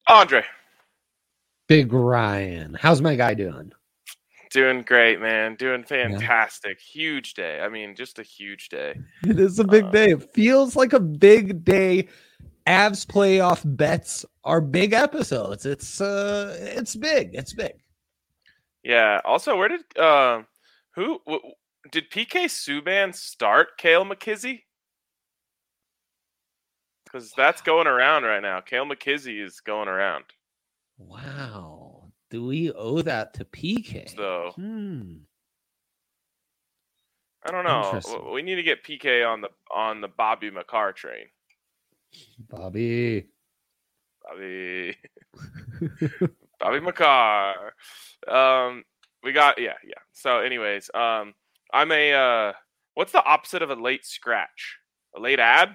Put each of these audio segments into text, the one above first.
Andre. Big Ryan. How's my guy doing? Doing great, man. Doing fantastic. Yeah. Huge day. I mean, just a huge day. It is a big day. It feels like a big day. Avs playoff bets are big episodes. It's big. It's big. Yeah. Also, where did did PK Subban start Cale McKizzy? Because that's going around right now. Cale McKizzy is going around. Wow. Do we owe that to PK? So, I don't know. We need to get PK on the Bobby McCarr train. Bobby McCarr. We got yeah. So, anyways, I'm a what's the opposite of a late scratch? A late ad?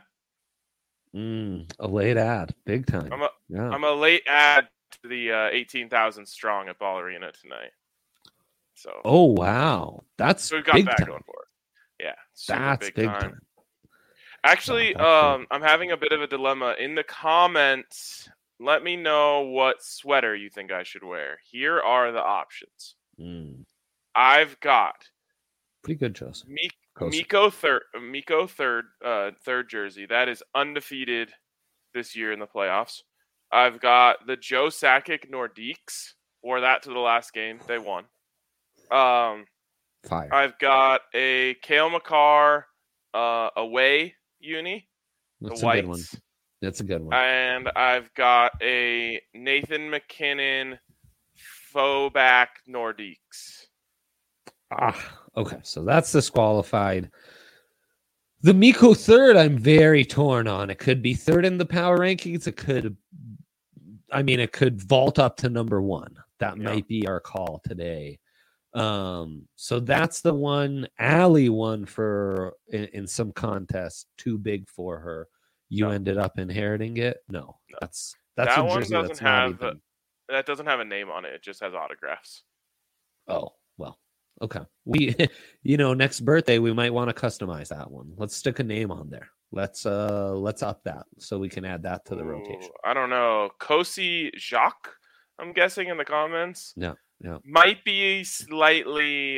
A late ad, big time. I'm a late ad to the 18,000 strong at Ball Arena tonight. So. Oh wow, so we've got big that time. Going for it. Yeah, that's big time. Actually, I'm having a bit of a dilemma in the comments. Let me know what sweater you think I should wear. Here are the options. I've got pretty good, Joseph. Mikko third jersey that is undefeated this year in the playoffs. I've got the Joe Sakic Nordiques. Wore that to the last game. They won. Fire. I've got a Cale McCarr away uni. That's the a whites. Good one. That's a good one. And I've got a Nathan McKinnon faux back Nordiques. Okay. So that's disqualified. The Mikko third, I'm very torn on. It could be third in the power rankings. It could vault up to number one. That might be our call today. So that's the one. Allie won for in some contest, too big for her. You ended up inheriting it. No. That's that a one jersey doesn't that's have not even... that doesn't have a name on it. It just has autographs. Oh well. Okay. We, next birthday we might want to customize that one. Let's stick a name on there. Let's up that so we can add that to the rotation. I don't know. Kosi Jacques, I'm guessing in the comments. Yeah. Might be slightly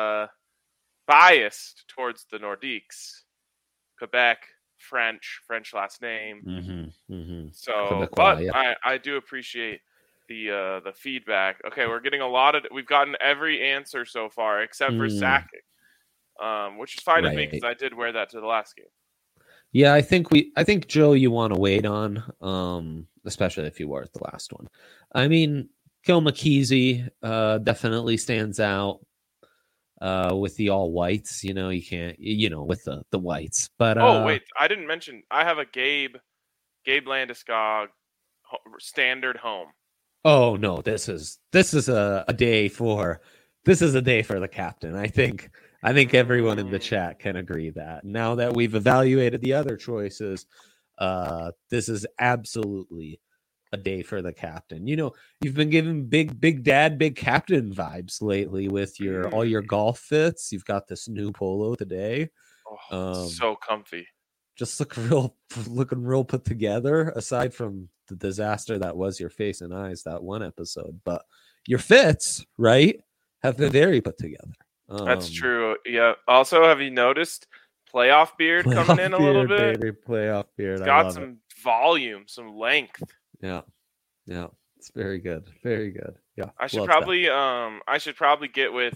biased towards the Nordiques. Quebec, French last name. So, Quebecois, but yeah. I do appreciate the feedback. Okay, we're getting we've gotten every answer so far except for Sakic, which is fine with me because I did wear that to the last game. Yeah, I think Joe, you want to wait on, especially if you were at the last one. I mean, Cale McKizzy definitely stands out with the all whites. You can't, with the whites. But wait, I didn't mention I have a Gabe Landeskog standard home. Oh no, this is a day for the captain. I think everyone in the chat can agree that now that we've evaluated the other choices, this is absolutely a day for the captain. You've been given big dad, big captain vibes lately with all your golf fits. You've got this new polo today. So comfy. Just looking real put together, aside from the disaster that was your face and eyes that one episode. But your fits, right, have been very put together. That's true. Yeah. Also, have you noticed playoff beard coming in a little bit? Baby, playoff beard. It's got some volume, some length. Yeah. It's very good. Very good. Yeah. I should probably get with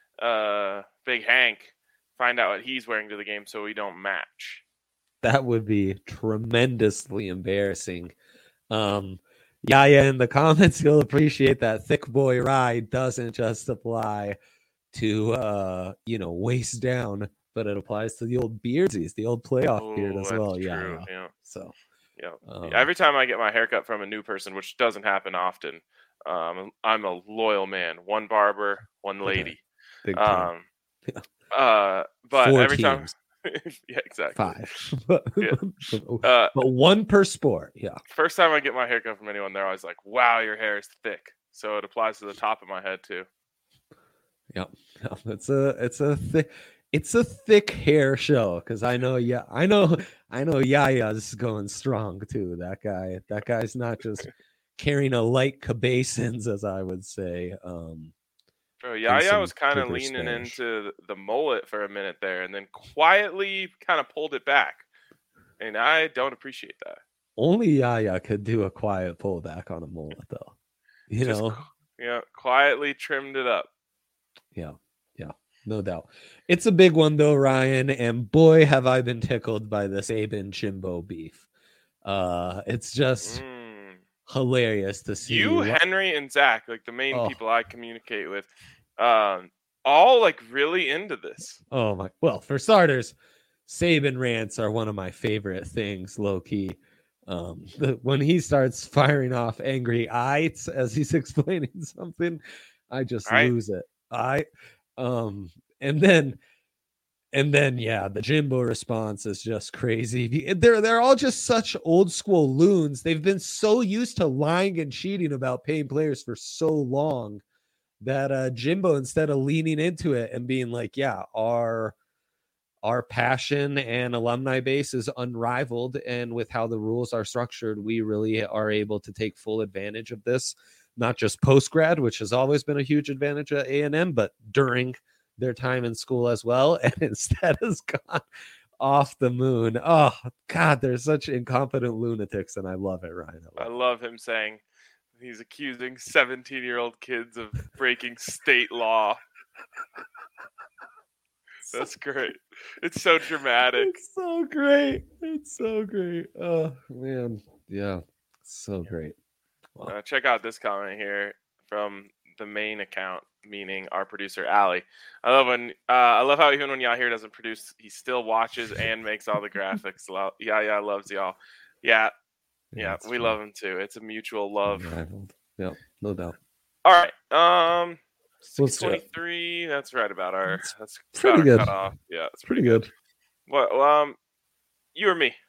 Big Hank, find out what he's wearing to the game so we don't match. That would be tremendously embarrassing. Yaya in the comments, you'll appreciate that thick boy ride doesn't just apply to waist down, but it applies to the old beardsies, the old playoff beard as well. True. Yeah. So every time I get my haircut from a new person, which doesn't happen often, I'm a loyal man. One barber, one lady. Big time. But 4 every teams. time yeah, exactly. 5. But one per sport. Yeah. First time I get my haircut from anyone, they're always like, "Wow, your hair is thick." So it applies to the top of my head too. Yep. It's a thick hair show because I know Yaya's going strong too. That guy's not just carrying a light cabeçons, as I would say. Yaya was kind of leaning into the mullet for a minute there, and then quietly kind of pulled it back, and I don't appreciate that. Only Yaya could do a quiet pullback on a mullet, though. Quietly trimmed it up. Yeah, no doubt. It's a big one, though, Ryan, and boy, have I been tickled by this Saban Jimbo beef. It's just hilarious to see you, Henry, and Zach, like the main people I communicate with, all like really into this. Oh my! Well, for starters, Saban rants are one of my favorite things, low key. When he starts firing off angry eyes as he's explaining something, I just lose it. And then the Jimbo response is just crazy. They're all just such old school loons. They've been so used to lying and cheating about paying players for so long that Jimbo, instead of leaning into it and being like, yeah, our passion and alumni base is unrivaled, and with how the rules are structured, we really are able to take full advantage of this, not just post-grad, which has always been a huge advantage at A&M, but during their time in school as well. And instead has gone off the moon. Oh God, they're such incompetent lunatics, and I love it, Ryan. I love him saying he's accusing 17-year-old kids of breaking state law. That's great. It's so dramatic. It's so great. Oh man, yeah, so great. Wow. Check out this comment here from the main account, meaning our producer Allie. I love how even when Yahir doesn't produce, he still watches and makes all the graphics. Yeah, loves y'all. Yeah, we love him too. It's a mutual love. Yeah, no doubt. All right, 6:23. That's right about our. That's pretty good. Cutoff. Yeah, it's pretty good. Well, you or me?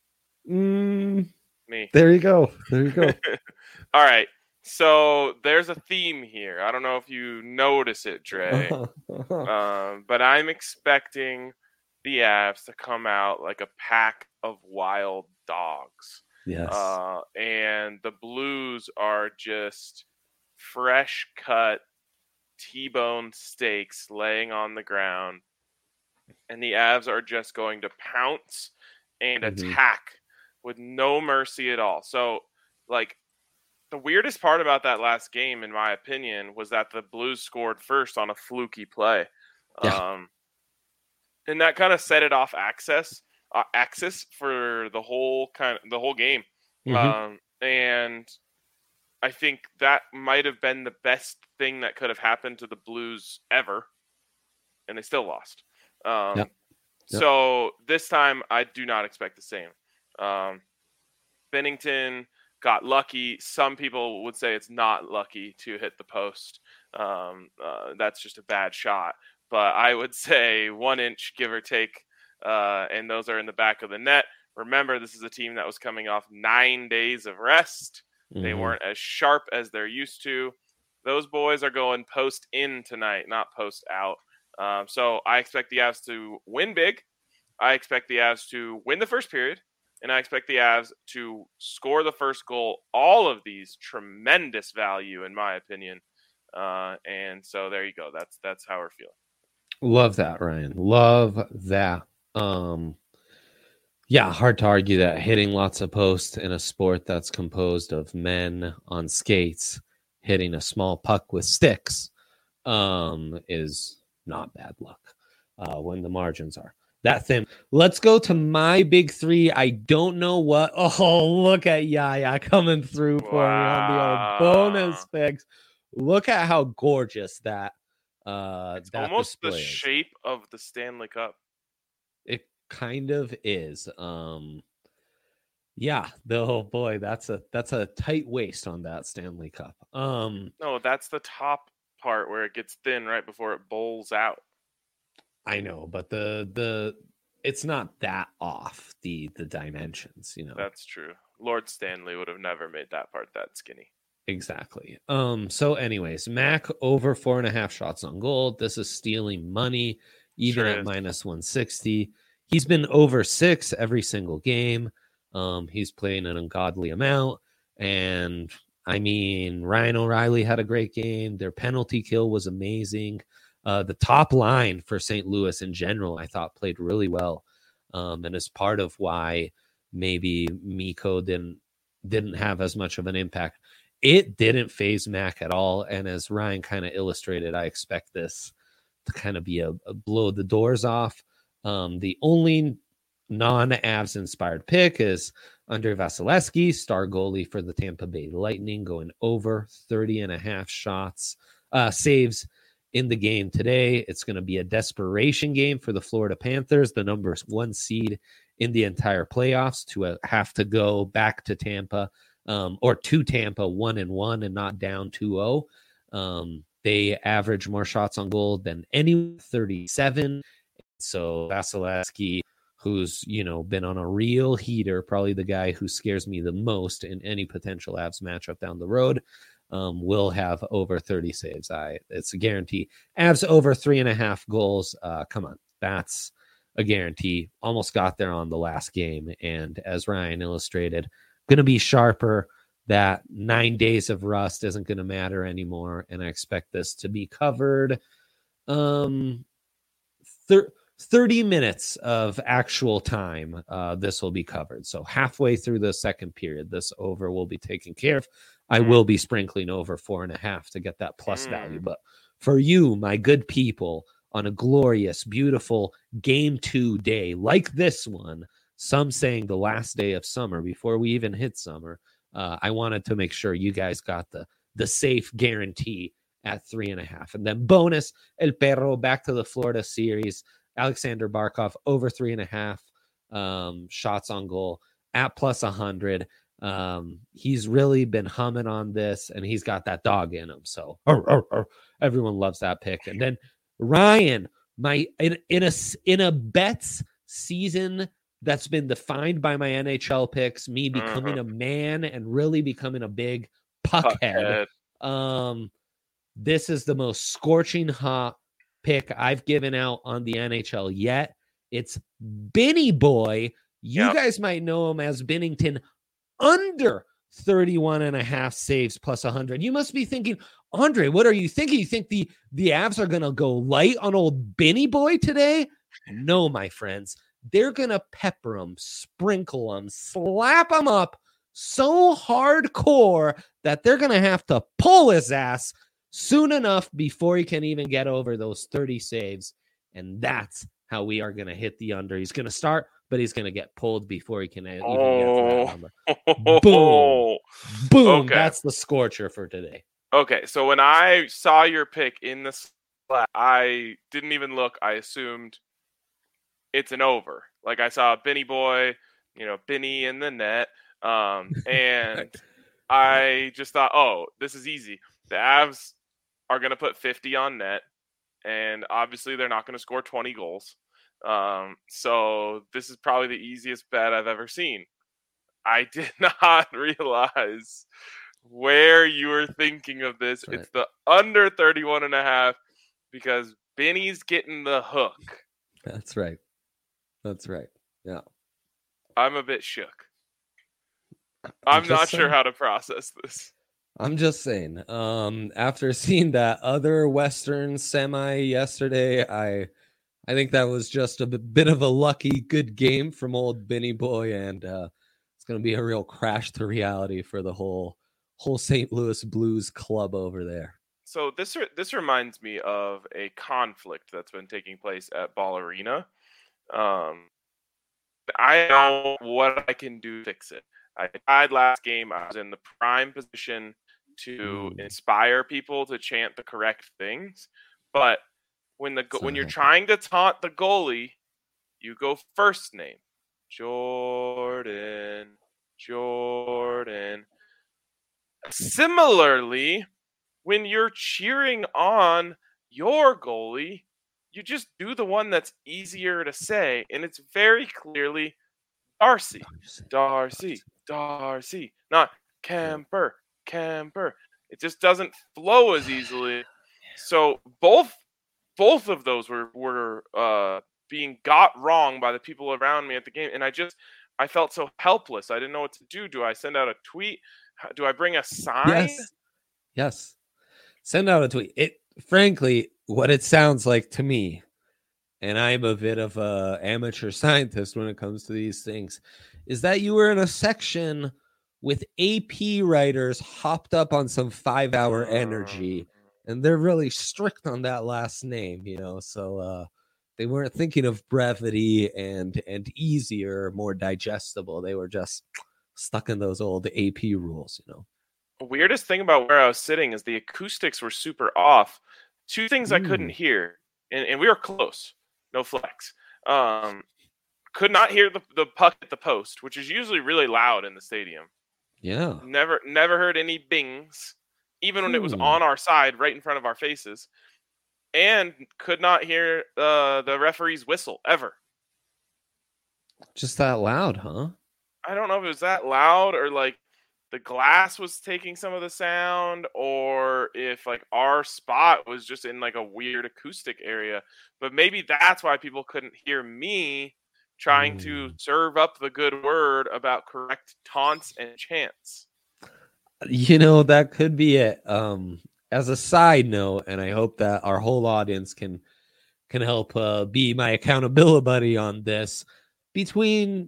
Me. There you go. All right. So there's a theme here. I don't know if you notice it, Dre, but I'm expecting the Avs to come out like a pack of wild dogs. Yes. And the Blues are just fresh cut T-bone steaks laying on the ground, and the Avs are just going to pounce and attack with no mercy at all. So, like, the weirdest part about that last game, in my opinion, was that the Blues scored first on a fluky play. Yeah. And that kind of set it off axis for the whole game. And I think that might have been the best thing that could have happened to the Blues ever, and they still lost. So this time, I do not expect the same. Binnington got lucky. Some people would say it's not lucky to hit the post. That's just a bad shot. But I would say 1 inch, give or take, and those are in the back of the net. Remember, this is a team that was coming off 9 days of rest. They weren't as sharp as they're used to. Those boys are going post in tonight, not post out. So I expect the Avs to win big. I expect the Avs to win the first period. And I expect the Avs to score the first goal. All of these tremendous value, in my opinion. And so there you go. That's how we're feeling. Love that, Ryan. Love that. Yeah, hard to argue that hitting lots of posts in a sport that's composed of men on skates hitting a small puck with sticks is not bad luck when the margins are that thin. Let's go to my big three. I don't know what. Oh, look at Yaya coming through for me on the old bonus picks. Look at how gorgeous that. It's that almost the shape of the Stanley Cup. It kind of is. Yeah. Oh boy, that's a tight waist on that Stanley Cup. No, that's the top part where it gets thin right before it bowls out. I know, but the it's not that off the dimensions, you know. That's true. Lord Stanley would have never made that part that skinny. Exactly. So anyways, Mac over 4.5 shots on goal. This is stealing money, even at minus 160. He's been over 6 every single game. He's playing an ungodly amount, and I mean, Ryan O'Reilly had a great game. Their penalty kill was amazing. The top line for St. Louis in general, I thought, played really well. And is part of why maybe Mikko didn't have as much of an impact. It didn't phase Mac at all. And as Ryan kind of illustrated, I expect this to kind of be a blow the doors off. The only non-Avs inspired pick is Andrei Vasilevsky, star goalie for the Tampa Bay Lightning, going over 30.5 shots, saves in the game today. It's going to be a desperation game for the Florida Panthers, the number 1 seed in the entire playoffs, to have to go back to Tampa, or to Tampa 1-1 and not down 2-0. They average more shots on goal than any, 37. So Vasilevsky, who's, been on a real heater, probably the guy who scares me the most in any potential Avs matchup down the road, will have over 30 saves. It's a guarantee. Avs over 3.5 goals. Come on, that's a guarantee. Almost got there on the last game. And as Ryan illustrated, going to be sharper. That 9 days of rust isn't going to matter anymore. And I expect this to be covered. 30 minutes of actual time, this will be covered. So halfway through the second period, this over will be taken care of. I will be sprinkling over 4.5 to get that plus value. But for you, my good people, on a glorious, beautiful Game 2 day like this one, some saying the last day of summer before we even hit summer, I wanted to make sure you guys got the safe guarantee at 3.5. And then bonus, El Perro back to the Florida series. Alexander Barkov over 3.5 shots on goal at plus 100. He's really been humming on this, and he's got that dog in him. So everyone loves that pick. And then Ryan, in a bets season that's been defined by my NHL picks, me becoming a man and really becoming a big puckhead. This is the most scorching hot pick I've given out on the NHL yet. It's Benny Boy. You guys might know him as Binnington, under 31.5 saves plus 100. You must be thinking, Andre, what are you thinking? You think the Avs are going to go light on old Benny Boy today? No, my friends. They're going to pepper him, sprinkle him, slap him up so hardcore that they're going to have to pull his ass soon enough before he can even get over those 30 saves. And that's how we are going to hit the under. He's going to start, but he's going to get pulled before he can even get to that number. Boom. Boom. Okay. That's the scorcher for today. Okay, so when I saw your pick in the slot, I didn't even look. I assumed it's an over. Like, I saw Benny Boy, Benny in the net. And I just thought, oh, this is easy. The Avs are going to put 50 on net, and obviously they're not going to score 20 goals. So this is probably the easiest bet I've ever seen. I did not realize where you were thinking of this. Right. It's the under 31.5 because Benny's getting the hook. That's right. Yeah. I'm a bit shook. I'm not sure how to process this. I'm just saying, after seeing that other Western semi yesterday, I think that was just a bit of a lucky good game from old Benny Boy, and it's going to be a real crash to reality for the whole St. Louis Blues club over there. So this reminds me of a conflict that's been taking place at Ball Arena. I know what I can do to fix it. I tried last game. I was in the prime position to inspire people to chant the correct things, but when you're trying to taunt the goalie, you go first name, Jordan. Similarly, when you're cheering on your goalie, you just do the one that's easier to say, and it's very clearly Darcy, not Camper. It just doesn't flow as easily. So both of those were being got wrong by the people around me at the game, and I felt so helpless. I didn't know what to do. Do I send out a tweet? Do I bring a sign? Yes. Send out a tweet. Frankly, what it sounds like to me, and I'm a bit of a amateur scientist when it comes to these things, is that you were in a section with AP writers hopped up on some 5-hour energy, and they're really strict on that last name, so they weren't thinking of brevity and easier, more digestible. They were just stuck in those old AP rules. Weirdest thing about where I was sitting is the acoustics were super off. Two things I couldn't hear, and we were close. No flex. Could not hear the puck at the post, which is usually really loud in the stadium. Yeah. Never heard any bings, even when it was on our side, right in front of our faces. And could not hear the referee's whistle ever. Just that loud, huh? I don't know if it was that loud or like the glass was taking some of the sound, or if like our spot was just in like a weird acoustic area. But maybe that's why people couldn't hear me trying to serve up the good word about correct taunts and chants. That could be it. As a side note, and I hope that our whole audience can help be my accountability buddy on this, between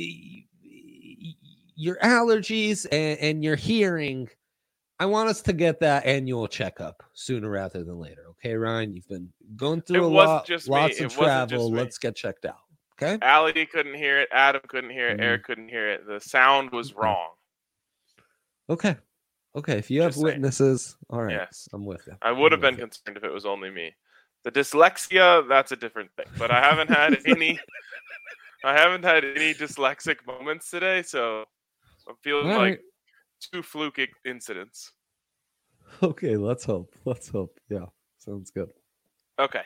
your allergies and your hearing, I want us to get that annual checkup sooner rather than later. Okay, Ryan, you've been going through lots of travel. Let's get checked out. Okay. Allie couldn't hear it. Adam couldn't hear it. Eric couldn't hear it. The sound was wrong. Okay. If you have witnesses, all right. Yes, I'm with you. I would have been concerned if it was only me. The dyslexia, that's a different thing. But I haven't had any. I haven't had any dyslexic moments today, so I'm feeling like 2 fluke incidents. Okay, let's hope. Yeah, sounds good. Okay.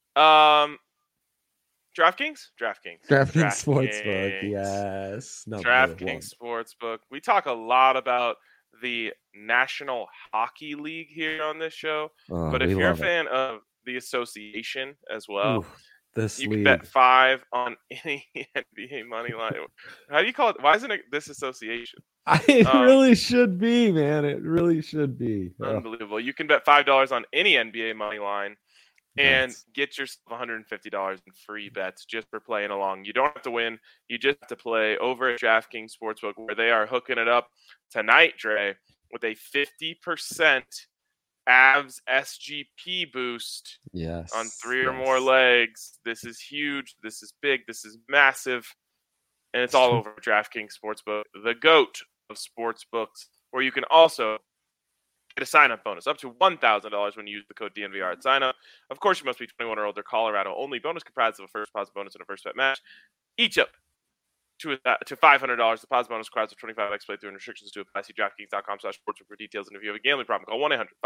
DraftKings Sportsbook, yes. DraftKings Sportsbook. We talk a lot about the National Hockey League here on this show, but if you're a fan of the association as well, you can bet 5 on any NBA money line. How do you call it? Why isn't it this association? It really should be, man. It really should be. Unbelievable. You can bet $5 on any NBA money line and get yourself $150 in free bets just for playing along. You don't have to win. You just have to play over at DraftKings Sportsbook, where they are hooking it up tonight, Dre, with a 50% Avs SGP boost on 3 or more legs. This is huge. This is big. This is massive. And it's all over DraftKings Sportsbook, the GOAT of sportsbooks, where you can also get a sign-up bonus up to $1,000 when you use the code DNVR at sign-up. Of course, you must be 21 or older, Colorado only. Bonus comprised of a first deposit bonus and a first bet match. Each up to $500. The deposit bonus requires a 25x play through and restrictions to apply. See DraftKings.com/sportsbook for details. And if you have a gambling problem, call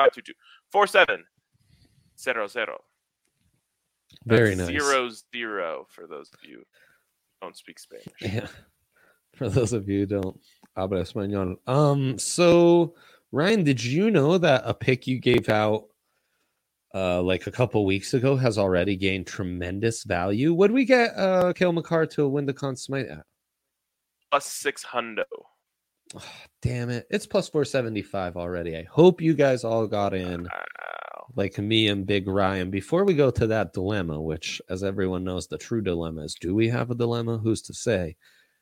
1-800-522-4700. Very nice. 0-0 for those of you who don't speak Spanish. Yeah. For those of you who don't habla español. So Ryan, did you know that a pick you gave out like a couple weeks ago has already gained tremendous value? Would we get Cale Makar to win the Conn Smythe at? +600. Oh, damn it. It's +475 already. I hope you guys all got in like me and Big Ryan. Before we go to that dilemma, which, as everyone knows, the true dilemma is, do we have a dilemma? Who's to say?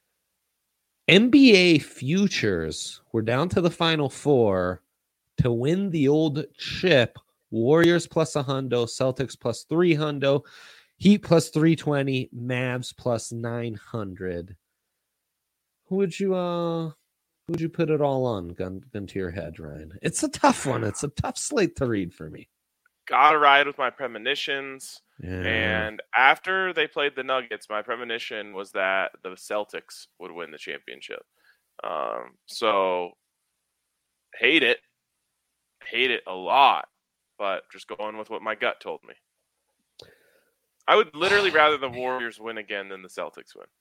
NBA futures were down to the final 4 to win the old chip. Warriors +100, Celtics +300, Heat +320, Mavs +900. Who would you put it all on? Gun to your head, Ryan. It's a tough one. It's a tough slate to read for me. Gotta ride with my premonitions. Yeah. And after they played the Nuggets, my premonition was that the Celtics would win the championship. So hate it a lot, but just going with what my gut told me. I would literally rather the Warriors win again than the Celtics win.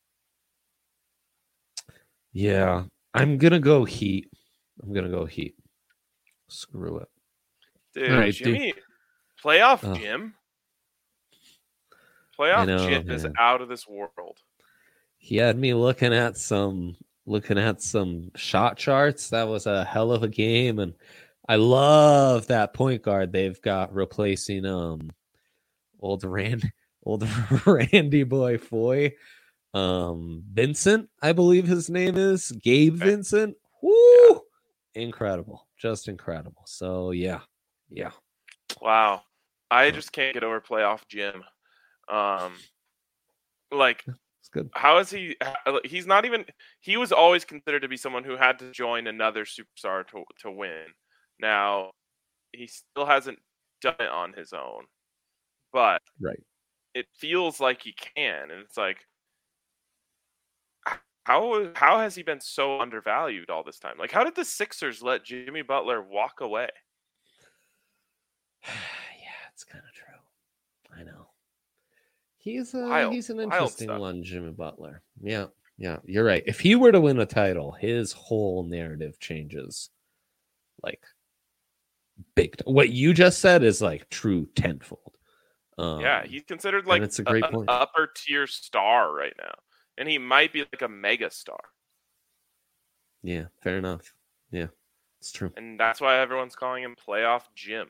Yeah, I'm gonna go Heat. Screw it, dude. Right, Jimmy, playoff Jim. Playoff Jim is out of this world. He had me looking at some looking at some shot charts, that was a hell of a game, and I love that point guard they've got replacing old Randy Boy Foy. Vincent, I believe his name is Gabe Vincent. Woo! Incredible. Just incredible. So yeah. Wow. I just can't get over playoff Jim. Like, it's good. How is he? He's not even. He was always considered to be someone who had to join another superstar to win. Now, he still hasn't done it on his own, but right. It feels like he can, and it's like, how has he been so undervalued all this time? Like, how did the Sixers let Jimmy Butler walk away? Yeah, it's kind of true. I know. He's an interesting one, Jimmy Butler. Yeah, you're right. If he were to win a title, his whole narrative changes. Like, big. What you just said is like true tenfold. Yeah, he's considered like it's a great point. Upper tier star right now, and he might be like a mega star. Yeah, fair enough. Yeah, it's true. And that's why everyone's calling him Playoff Jim.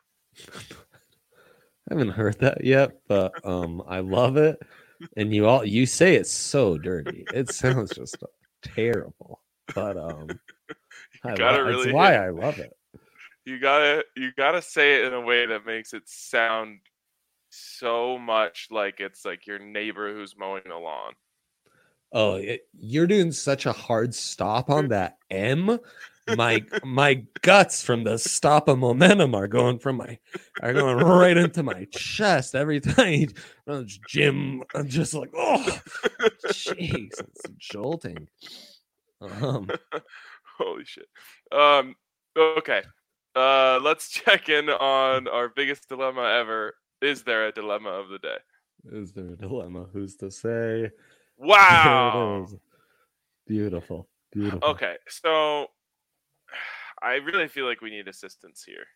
I haven't heard that yet, but I love it. And you say it's so dirty. It sounds just terrible. But that's why I love it. You gotta say it in a way that makes it sound so much like it's like your neighbor who's mowing the lawn. Oh, you're doing such a hard stop on that M. My guts from the stop of momentum are going right into my chest every time Jim. I'm just like, oh, jeez, it's jolting. Holy shit. Okay. Let's check in on our biggest dilemma ever. Is there a dilemma of the day? Is there a dilemma? Who's to say? Wow. Beautiful. Okay, so I really feel like we need assistance here.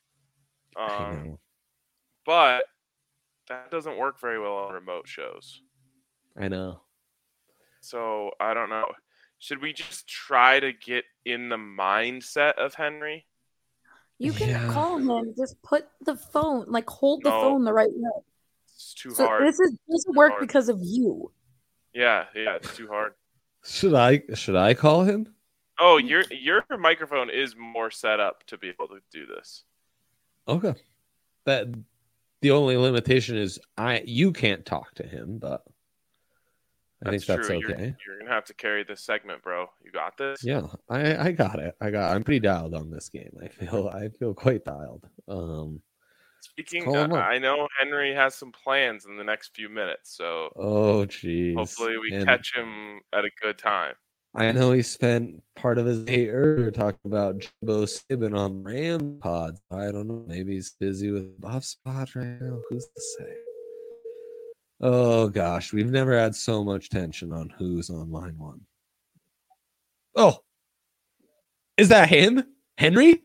But that doesn't work very well on remote shows. I know. So I don't know. Should we just try to get in the mindset of Henry? You can call him. Just put the phone, hold the phone the right way. It's too hard. This doesn't work because of you. Yeah, it's too hard. Should I call him? Oh, your microphone is more set up to be able to do this. Okay. That the only limitation is you can't talk to him, but I think that's okay. You're gonna have to carry this segment, bro. You got this? Yeah, I got it. I'm pretty dialed on this game. I feel quite dialed. Speaking, I know Henry has some plans in the next few minutes, so geez. Hopefully we catch him at a good time. I know he spent part of his day earlier talking about Jimbo Sibbin on Ram Pods. I don't know. Maybe he's busy with Buff Spot right now. Who's to say? Oh gosh, we've never had so much tension on who's on line one. Oh, is that him, Henry?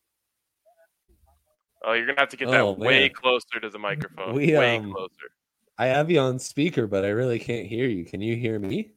Oh, you're gonna have to get that way closer to the microphone. Way closer. I have you on speaker, but I really can't hear you. Can you hear me?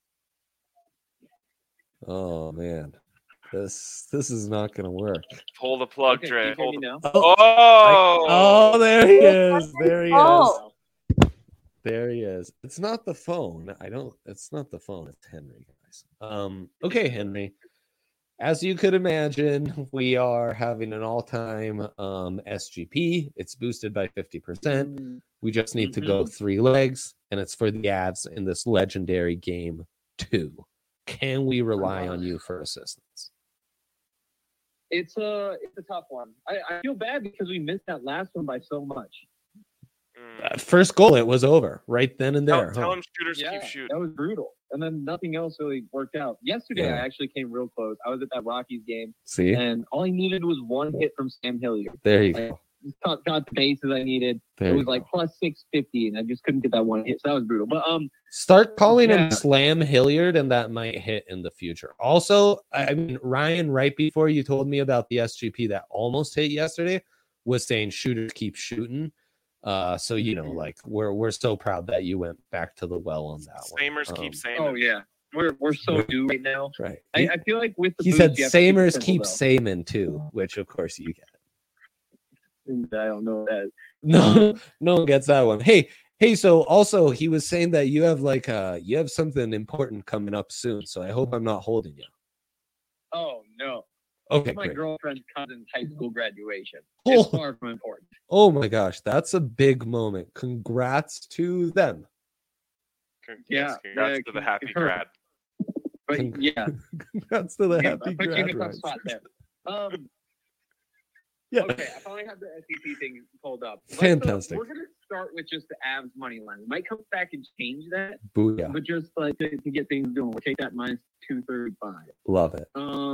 Oh man, this is not gonna work. Pull the plug, Dre. Can you hear me now? Oh, there he is. There he is. There he is. It's not the phone. It's not the phone. It's Henry, guys. Okay, Henry. As you could imagine, we are having an all-time SGP. It's boosted by 50%. We just need to go 3 legs, and it's for the Avs in this legendary game 2. Can we rely on you for assistance? It's a tough one. I feel bad because we missed that last one by so much. First goal, it was over right then and there. Tell him shooters keep shooting. That was brutal. And then nothing else really worked out. Yesterday, I actually came real close. I was at that Rockies game. See? And all I needed was one hit from Sam Hilliard. There you go. Got the bases I needed. It was like plus 650, and I just couldn't get that one hit. So that was brutal. But start calling him Slam Hilliard, and that might hit in the future. Also, I mean, Ryan, right before you told me about the SGP that almost hit yesterday, was saying shooters keep shooting. So we're so proud that you went back to the well on that one. Samers keep saying. Oh yeah. we're so due right now. Right. I feel like with the he boost, said you have to Samers keep though. Saman too, which of course you get. I don't know that. No one gets that one. Hey, so also he was saying that you have you have something important coming up soon, so I hope I'm not holding you. Oh no. Okay, my great. Girlfriend's cousin's high school graduation. It's far from important. Oh my gosh, that's a big moment. Congrats to them. Congrats to the happy grad. But congrats to the happy grad. You in a tough spot there. Yeah. Okay, I finally have the SEC thing pulled up. Fantastic. We're gonna start with just the Avs money line. We might come back and change that. Booyah. But just like to get things going, we'll take that minus 235. Love it.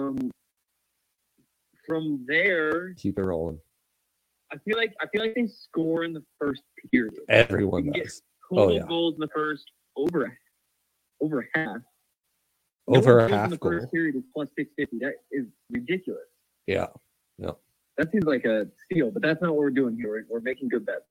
From there, keep it rolling. I feel like they score in the first period. Everyone does. Total goals in the first over half. Over a half in the goal. First period is plus 650. That is ridiculous. Yeah. No. That seems like a steal, but that's not what we're doing here. We're making good bets.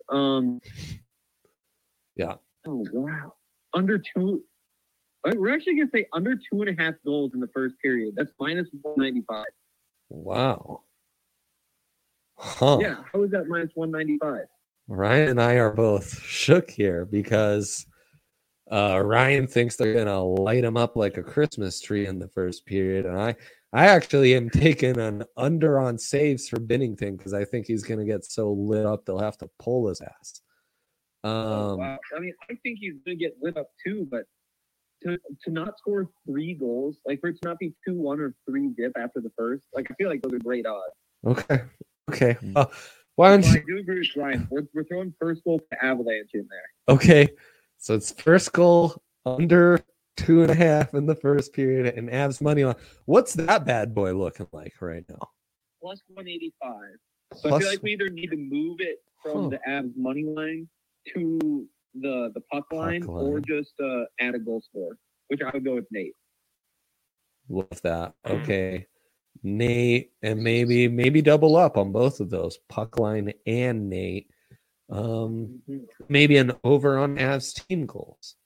Yeah. Oh wow. Under two. We're actually gonna say under 2.5 goals in the first period. That's minus 195. Wow. Huh. Yeah. How is that minus 195? Ryan and I are both shook here because Ryan thinks they're gonna light him up like a Christmas tree in the first period, and I actually am taking an under on saves for Binnington because I think he's gonna get so lit up they'll have to pull his ass. Wow. I mean, I think he's gonna get lit up too, but to not score 3 goals, like for it to not be 2-1 or 3-0 after the first, like I feel like those are great odds. Okay. Why don't you? I do agree with Ryan. We're throwing first goal to Avalanche in there. Okay, so it's first goal under 2.5 in the first period, and Avs money line. What's that bad boy looking like right now? Plus 185. So I feel like we either need to move it from the Avs money line to the puck line, or just add a goal score, which I would go with Nate. Love that. Okay. Nate, and maybe double up on both of those, puck line and Nate. Maybe an over on Avs team goals.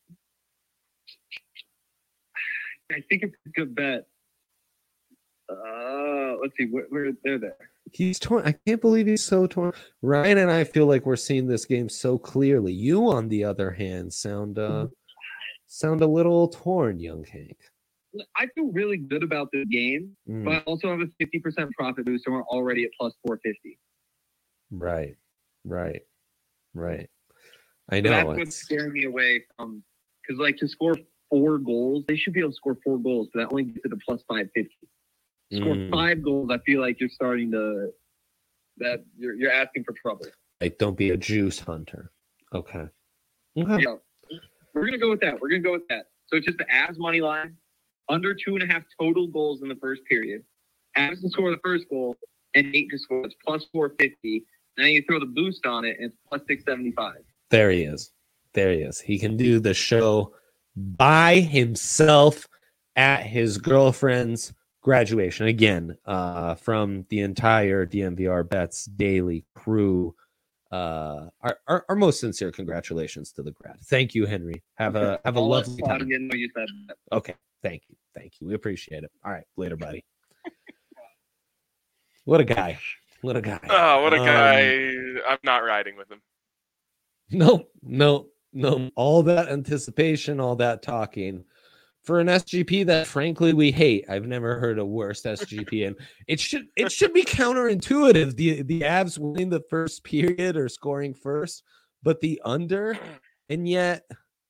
I think it's a good bet. Let's see, where they're there. He's torn. I can't believe he's so torn. Ryan and I feel like we're seeing this game so clearly. You, on the other hand, sound a little torn, young Hank. I feel really good about this game, but I also have a 50% profit boost, and we're already at plus 450. Right. I know. So that's what's scaring me away from, because like to score 4 goals, they should be able to score 4 goals, but that only gets to the plus 550. Score 5 goals, I feel like you're starting to you're asking for trouble. Like, don't be a juice hunter. Okay. Yeah, we're gonna go with that. So it's just the Avs money line. Under 2.5 total goals in the first period. Avs to score the first goal and Nate to score. It's plus 450. Now you throw the boost on it and it's plus 675. There he is. He can do the show by himself at his girlfriend's graduation. Again, from the entire DNVR Bets Daily crew. Our most sincere congratulations to the grad. Thank you, Henry. Have a lovely time. Didn't know you said that. Okay. Thank you. We appreciate it. All right. Later, buddy. What a guy. Oh, what a guy. I'm not riding with him. No. All that anticipation, all that talking for an SGP that frankly we hate. I've never heard a worse SGP, and it should be counterintuitive. The Avs winning the first period or scoring first, but the under, and yet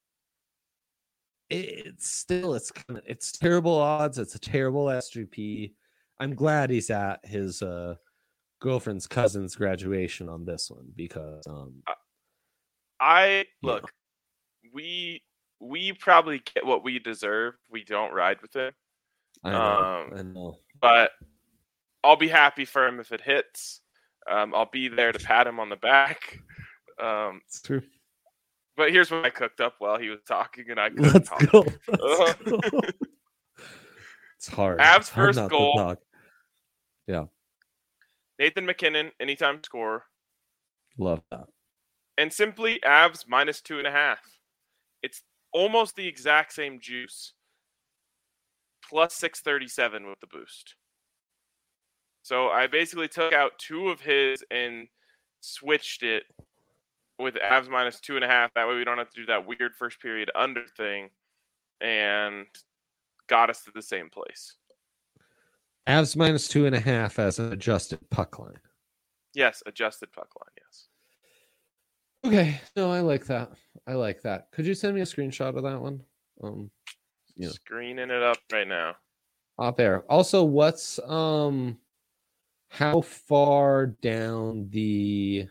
it's terrible odds. It's a terrible SGP. I'm glad he's at his girlfriend's cousin's graduation on this one because we probably get what we deserve. We don't ride with it. I know. But I'll be happy for him if it hits. I'll be there to pat him on the back. It's true. But here's what I cooked up while he was talking, and I couldn't Let's talk. go. It's hard. Avs first goal. Yeah. Nathan McKinnon, anytime scorer. Love that. And simply Avs minus 2.5. It's almost the exact same juice. plus 637 with the boost. So I basically took out 2 of his and switched it with Avs minus 2.5. That way we don't have to do that weird first period under thing, and got us to the same place. Avs minus 2.5 as an adjusted puck line. Yes, adjusted puck line. Yes. Okay. No, I like that. Could you send me a screenshot of that one? Screening it up right now. Out there. Also, what's how far down the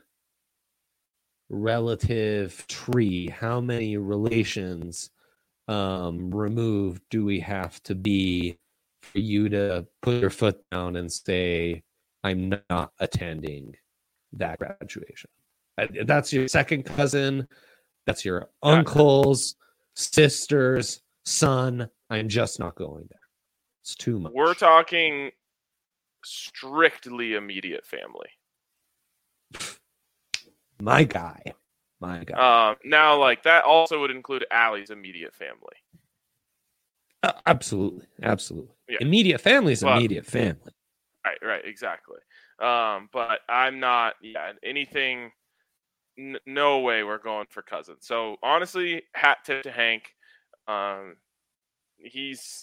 relative tree, how many relations removed do we have to be for you to put your foot down and say, I'm not attending that graduation? That's your second cousin. That's your uncle's sister's son. I'm just not going there. It's too much. We're talking strictly immediate family. My guy. Now, like, that also would include Allie's immediate family. Absolutely. Yeah. Immediate family is immediate family. Right, exactly. But I'm not, anything, no way we're going for cousins. So, honestly, hat tip to Hank. He's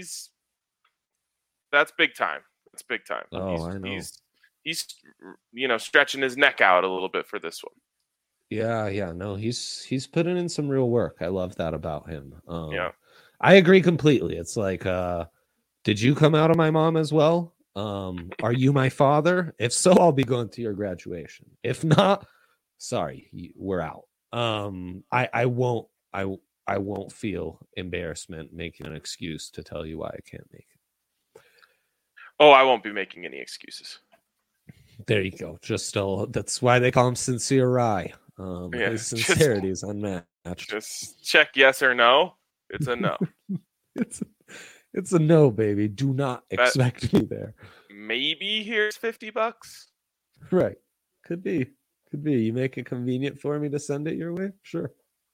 that's big time. It's big time. Oh, I know. He's stretching his neck out a little bit for this one. Yeah. No, he's putting in some real work. I love that about him. Yeah. I agree completely. It's like, did you come out of my mom as well? Are you my father? If so, I'll be going to your graduation. If not, sorry, we're out. I won't feel embarrassment making an excuse to tell you why I can't make it. Oh, I won't be making any excuses. There you go. That's why they call him Sincere Rye. His sincerity is unmatched. Just check yes or no. It's a no. It's a no, baby. Do not expect me there. Maybe here's $50. Right. Could be. You make it convenient for me to send it your way? Sure.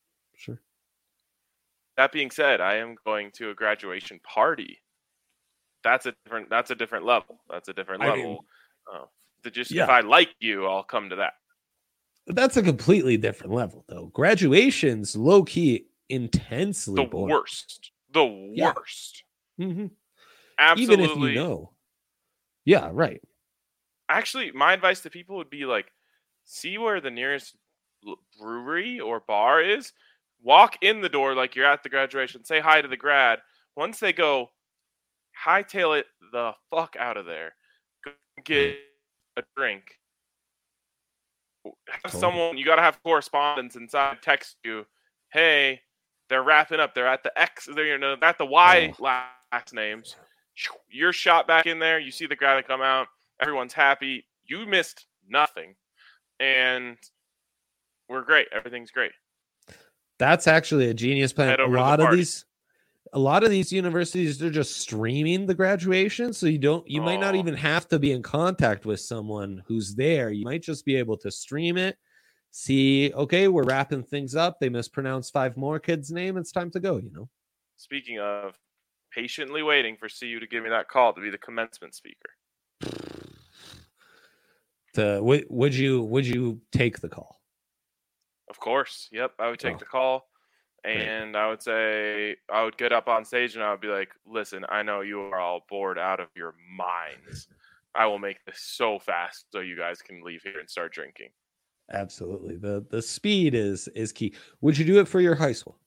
That being said, I am going to a graduation party. That's a different level. If I like you, I'll come to that. That's a completely different level, though. Graduation's low key intensely boring. The worst. Mm-hmm. Absolutely. Even if you know. Yeah, right. Actually, my advice to people would be like, see where the nearest brewery or bar is. Walk in the door like you're at the graduation. Say hi to the grad. Once they go, hightail it the fuck out of there. Go get a drink. Have someone, you got to have correspondence inside text you, hey, they're wrapping up. They're at the X, they're at the Y last names. You're shot back in there. You see the guy that come out. Everyone's happy. You missed nothing. And we're great. Everything's great. That's actually a genius plan. A lot of these universities, they're just streaming the graduation, so you might not even have to be in contact with someone who's there. You might just be able to stream it, see, okay, we're wrapping things up. They mispronounced 5 more kids' name. It's time to go, Speaking of, patiently waiting for CU to give me that call to be the commencement speaker. Would you take the call? Of course. Yep, I would take the call. And I would say, I would get up on stage and I would be like, listen, I know you are all bored out of your minds. I will make this so fast so you guys can leave here and start drinking. Absolutely. The speed is key. Would you do it for your high school?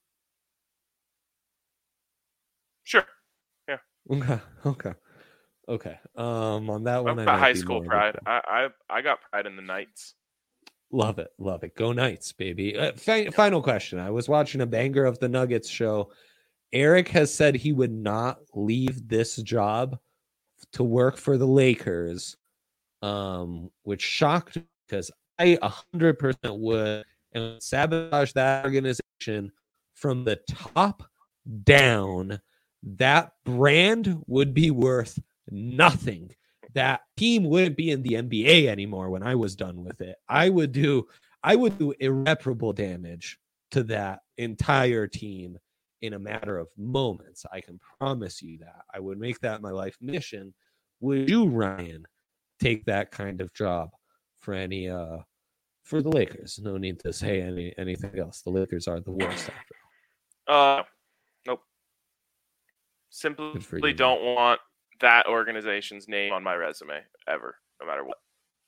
Sure. Yeah. Okay. On that one, I've got high school pride. I got pride in the Knights. Love it. Go Knights, baby. Final question. I was watching a Banger of the Nuggets show. Eric has said he would not leave this job to work for the Lakers, which shocked me because I 100% would and sabotage that organization from the top down. That brand would be worth nothing. That team wouldn't be in the NBA anymore when I was done with it. I would do irreparable damage to that entire team in a matter of moments. I can promise you that. I would make that my life mission. Would you, Ryan, take that kind of job for any for the Lakers? No need to say anything else. The Lakers are the worst after. Nope. Simply don't want that organization's name on my resume ever, no matter what.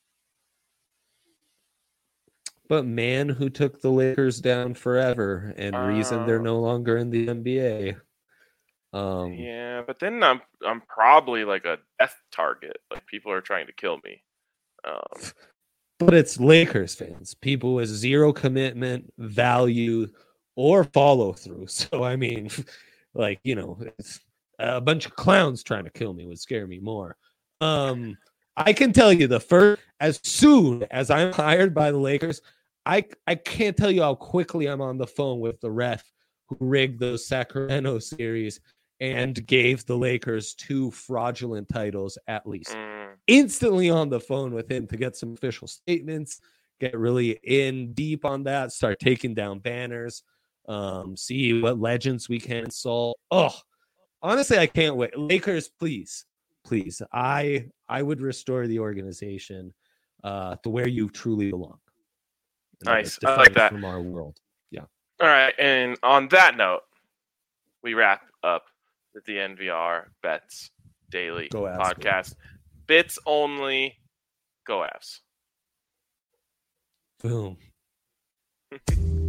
But man who took the Lakers down forever and reason they're no longer in the NBA. Yeah, but then I'm probably like a death target. Like people are trying to kill me. But it's Lakers fans, people with zero commitment, value, or follow through. So I mean, like, you know, it's a bunch of clowns trying to kill me would scare me more. I can tell you as soon as I'm hired by the Lakers, I can't tell you how quickly I'm on the phone with the ref who rigged those Sacramento series and gave the Lakers 2 fraudulent titles at least. Instantly on the phone with him to get some official statements, get really in deep on that, start taking down banners, see what legends we can insult. Oh, honestly, I can't wait. Lakers, please. I would restore the organization to where you truly belong. Nice. I like that. From our world. Yeah. All right. And on that note, we wrap up the DNVR Bets Daily podcast. Bits only. Go Avs. Boom.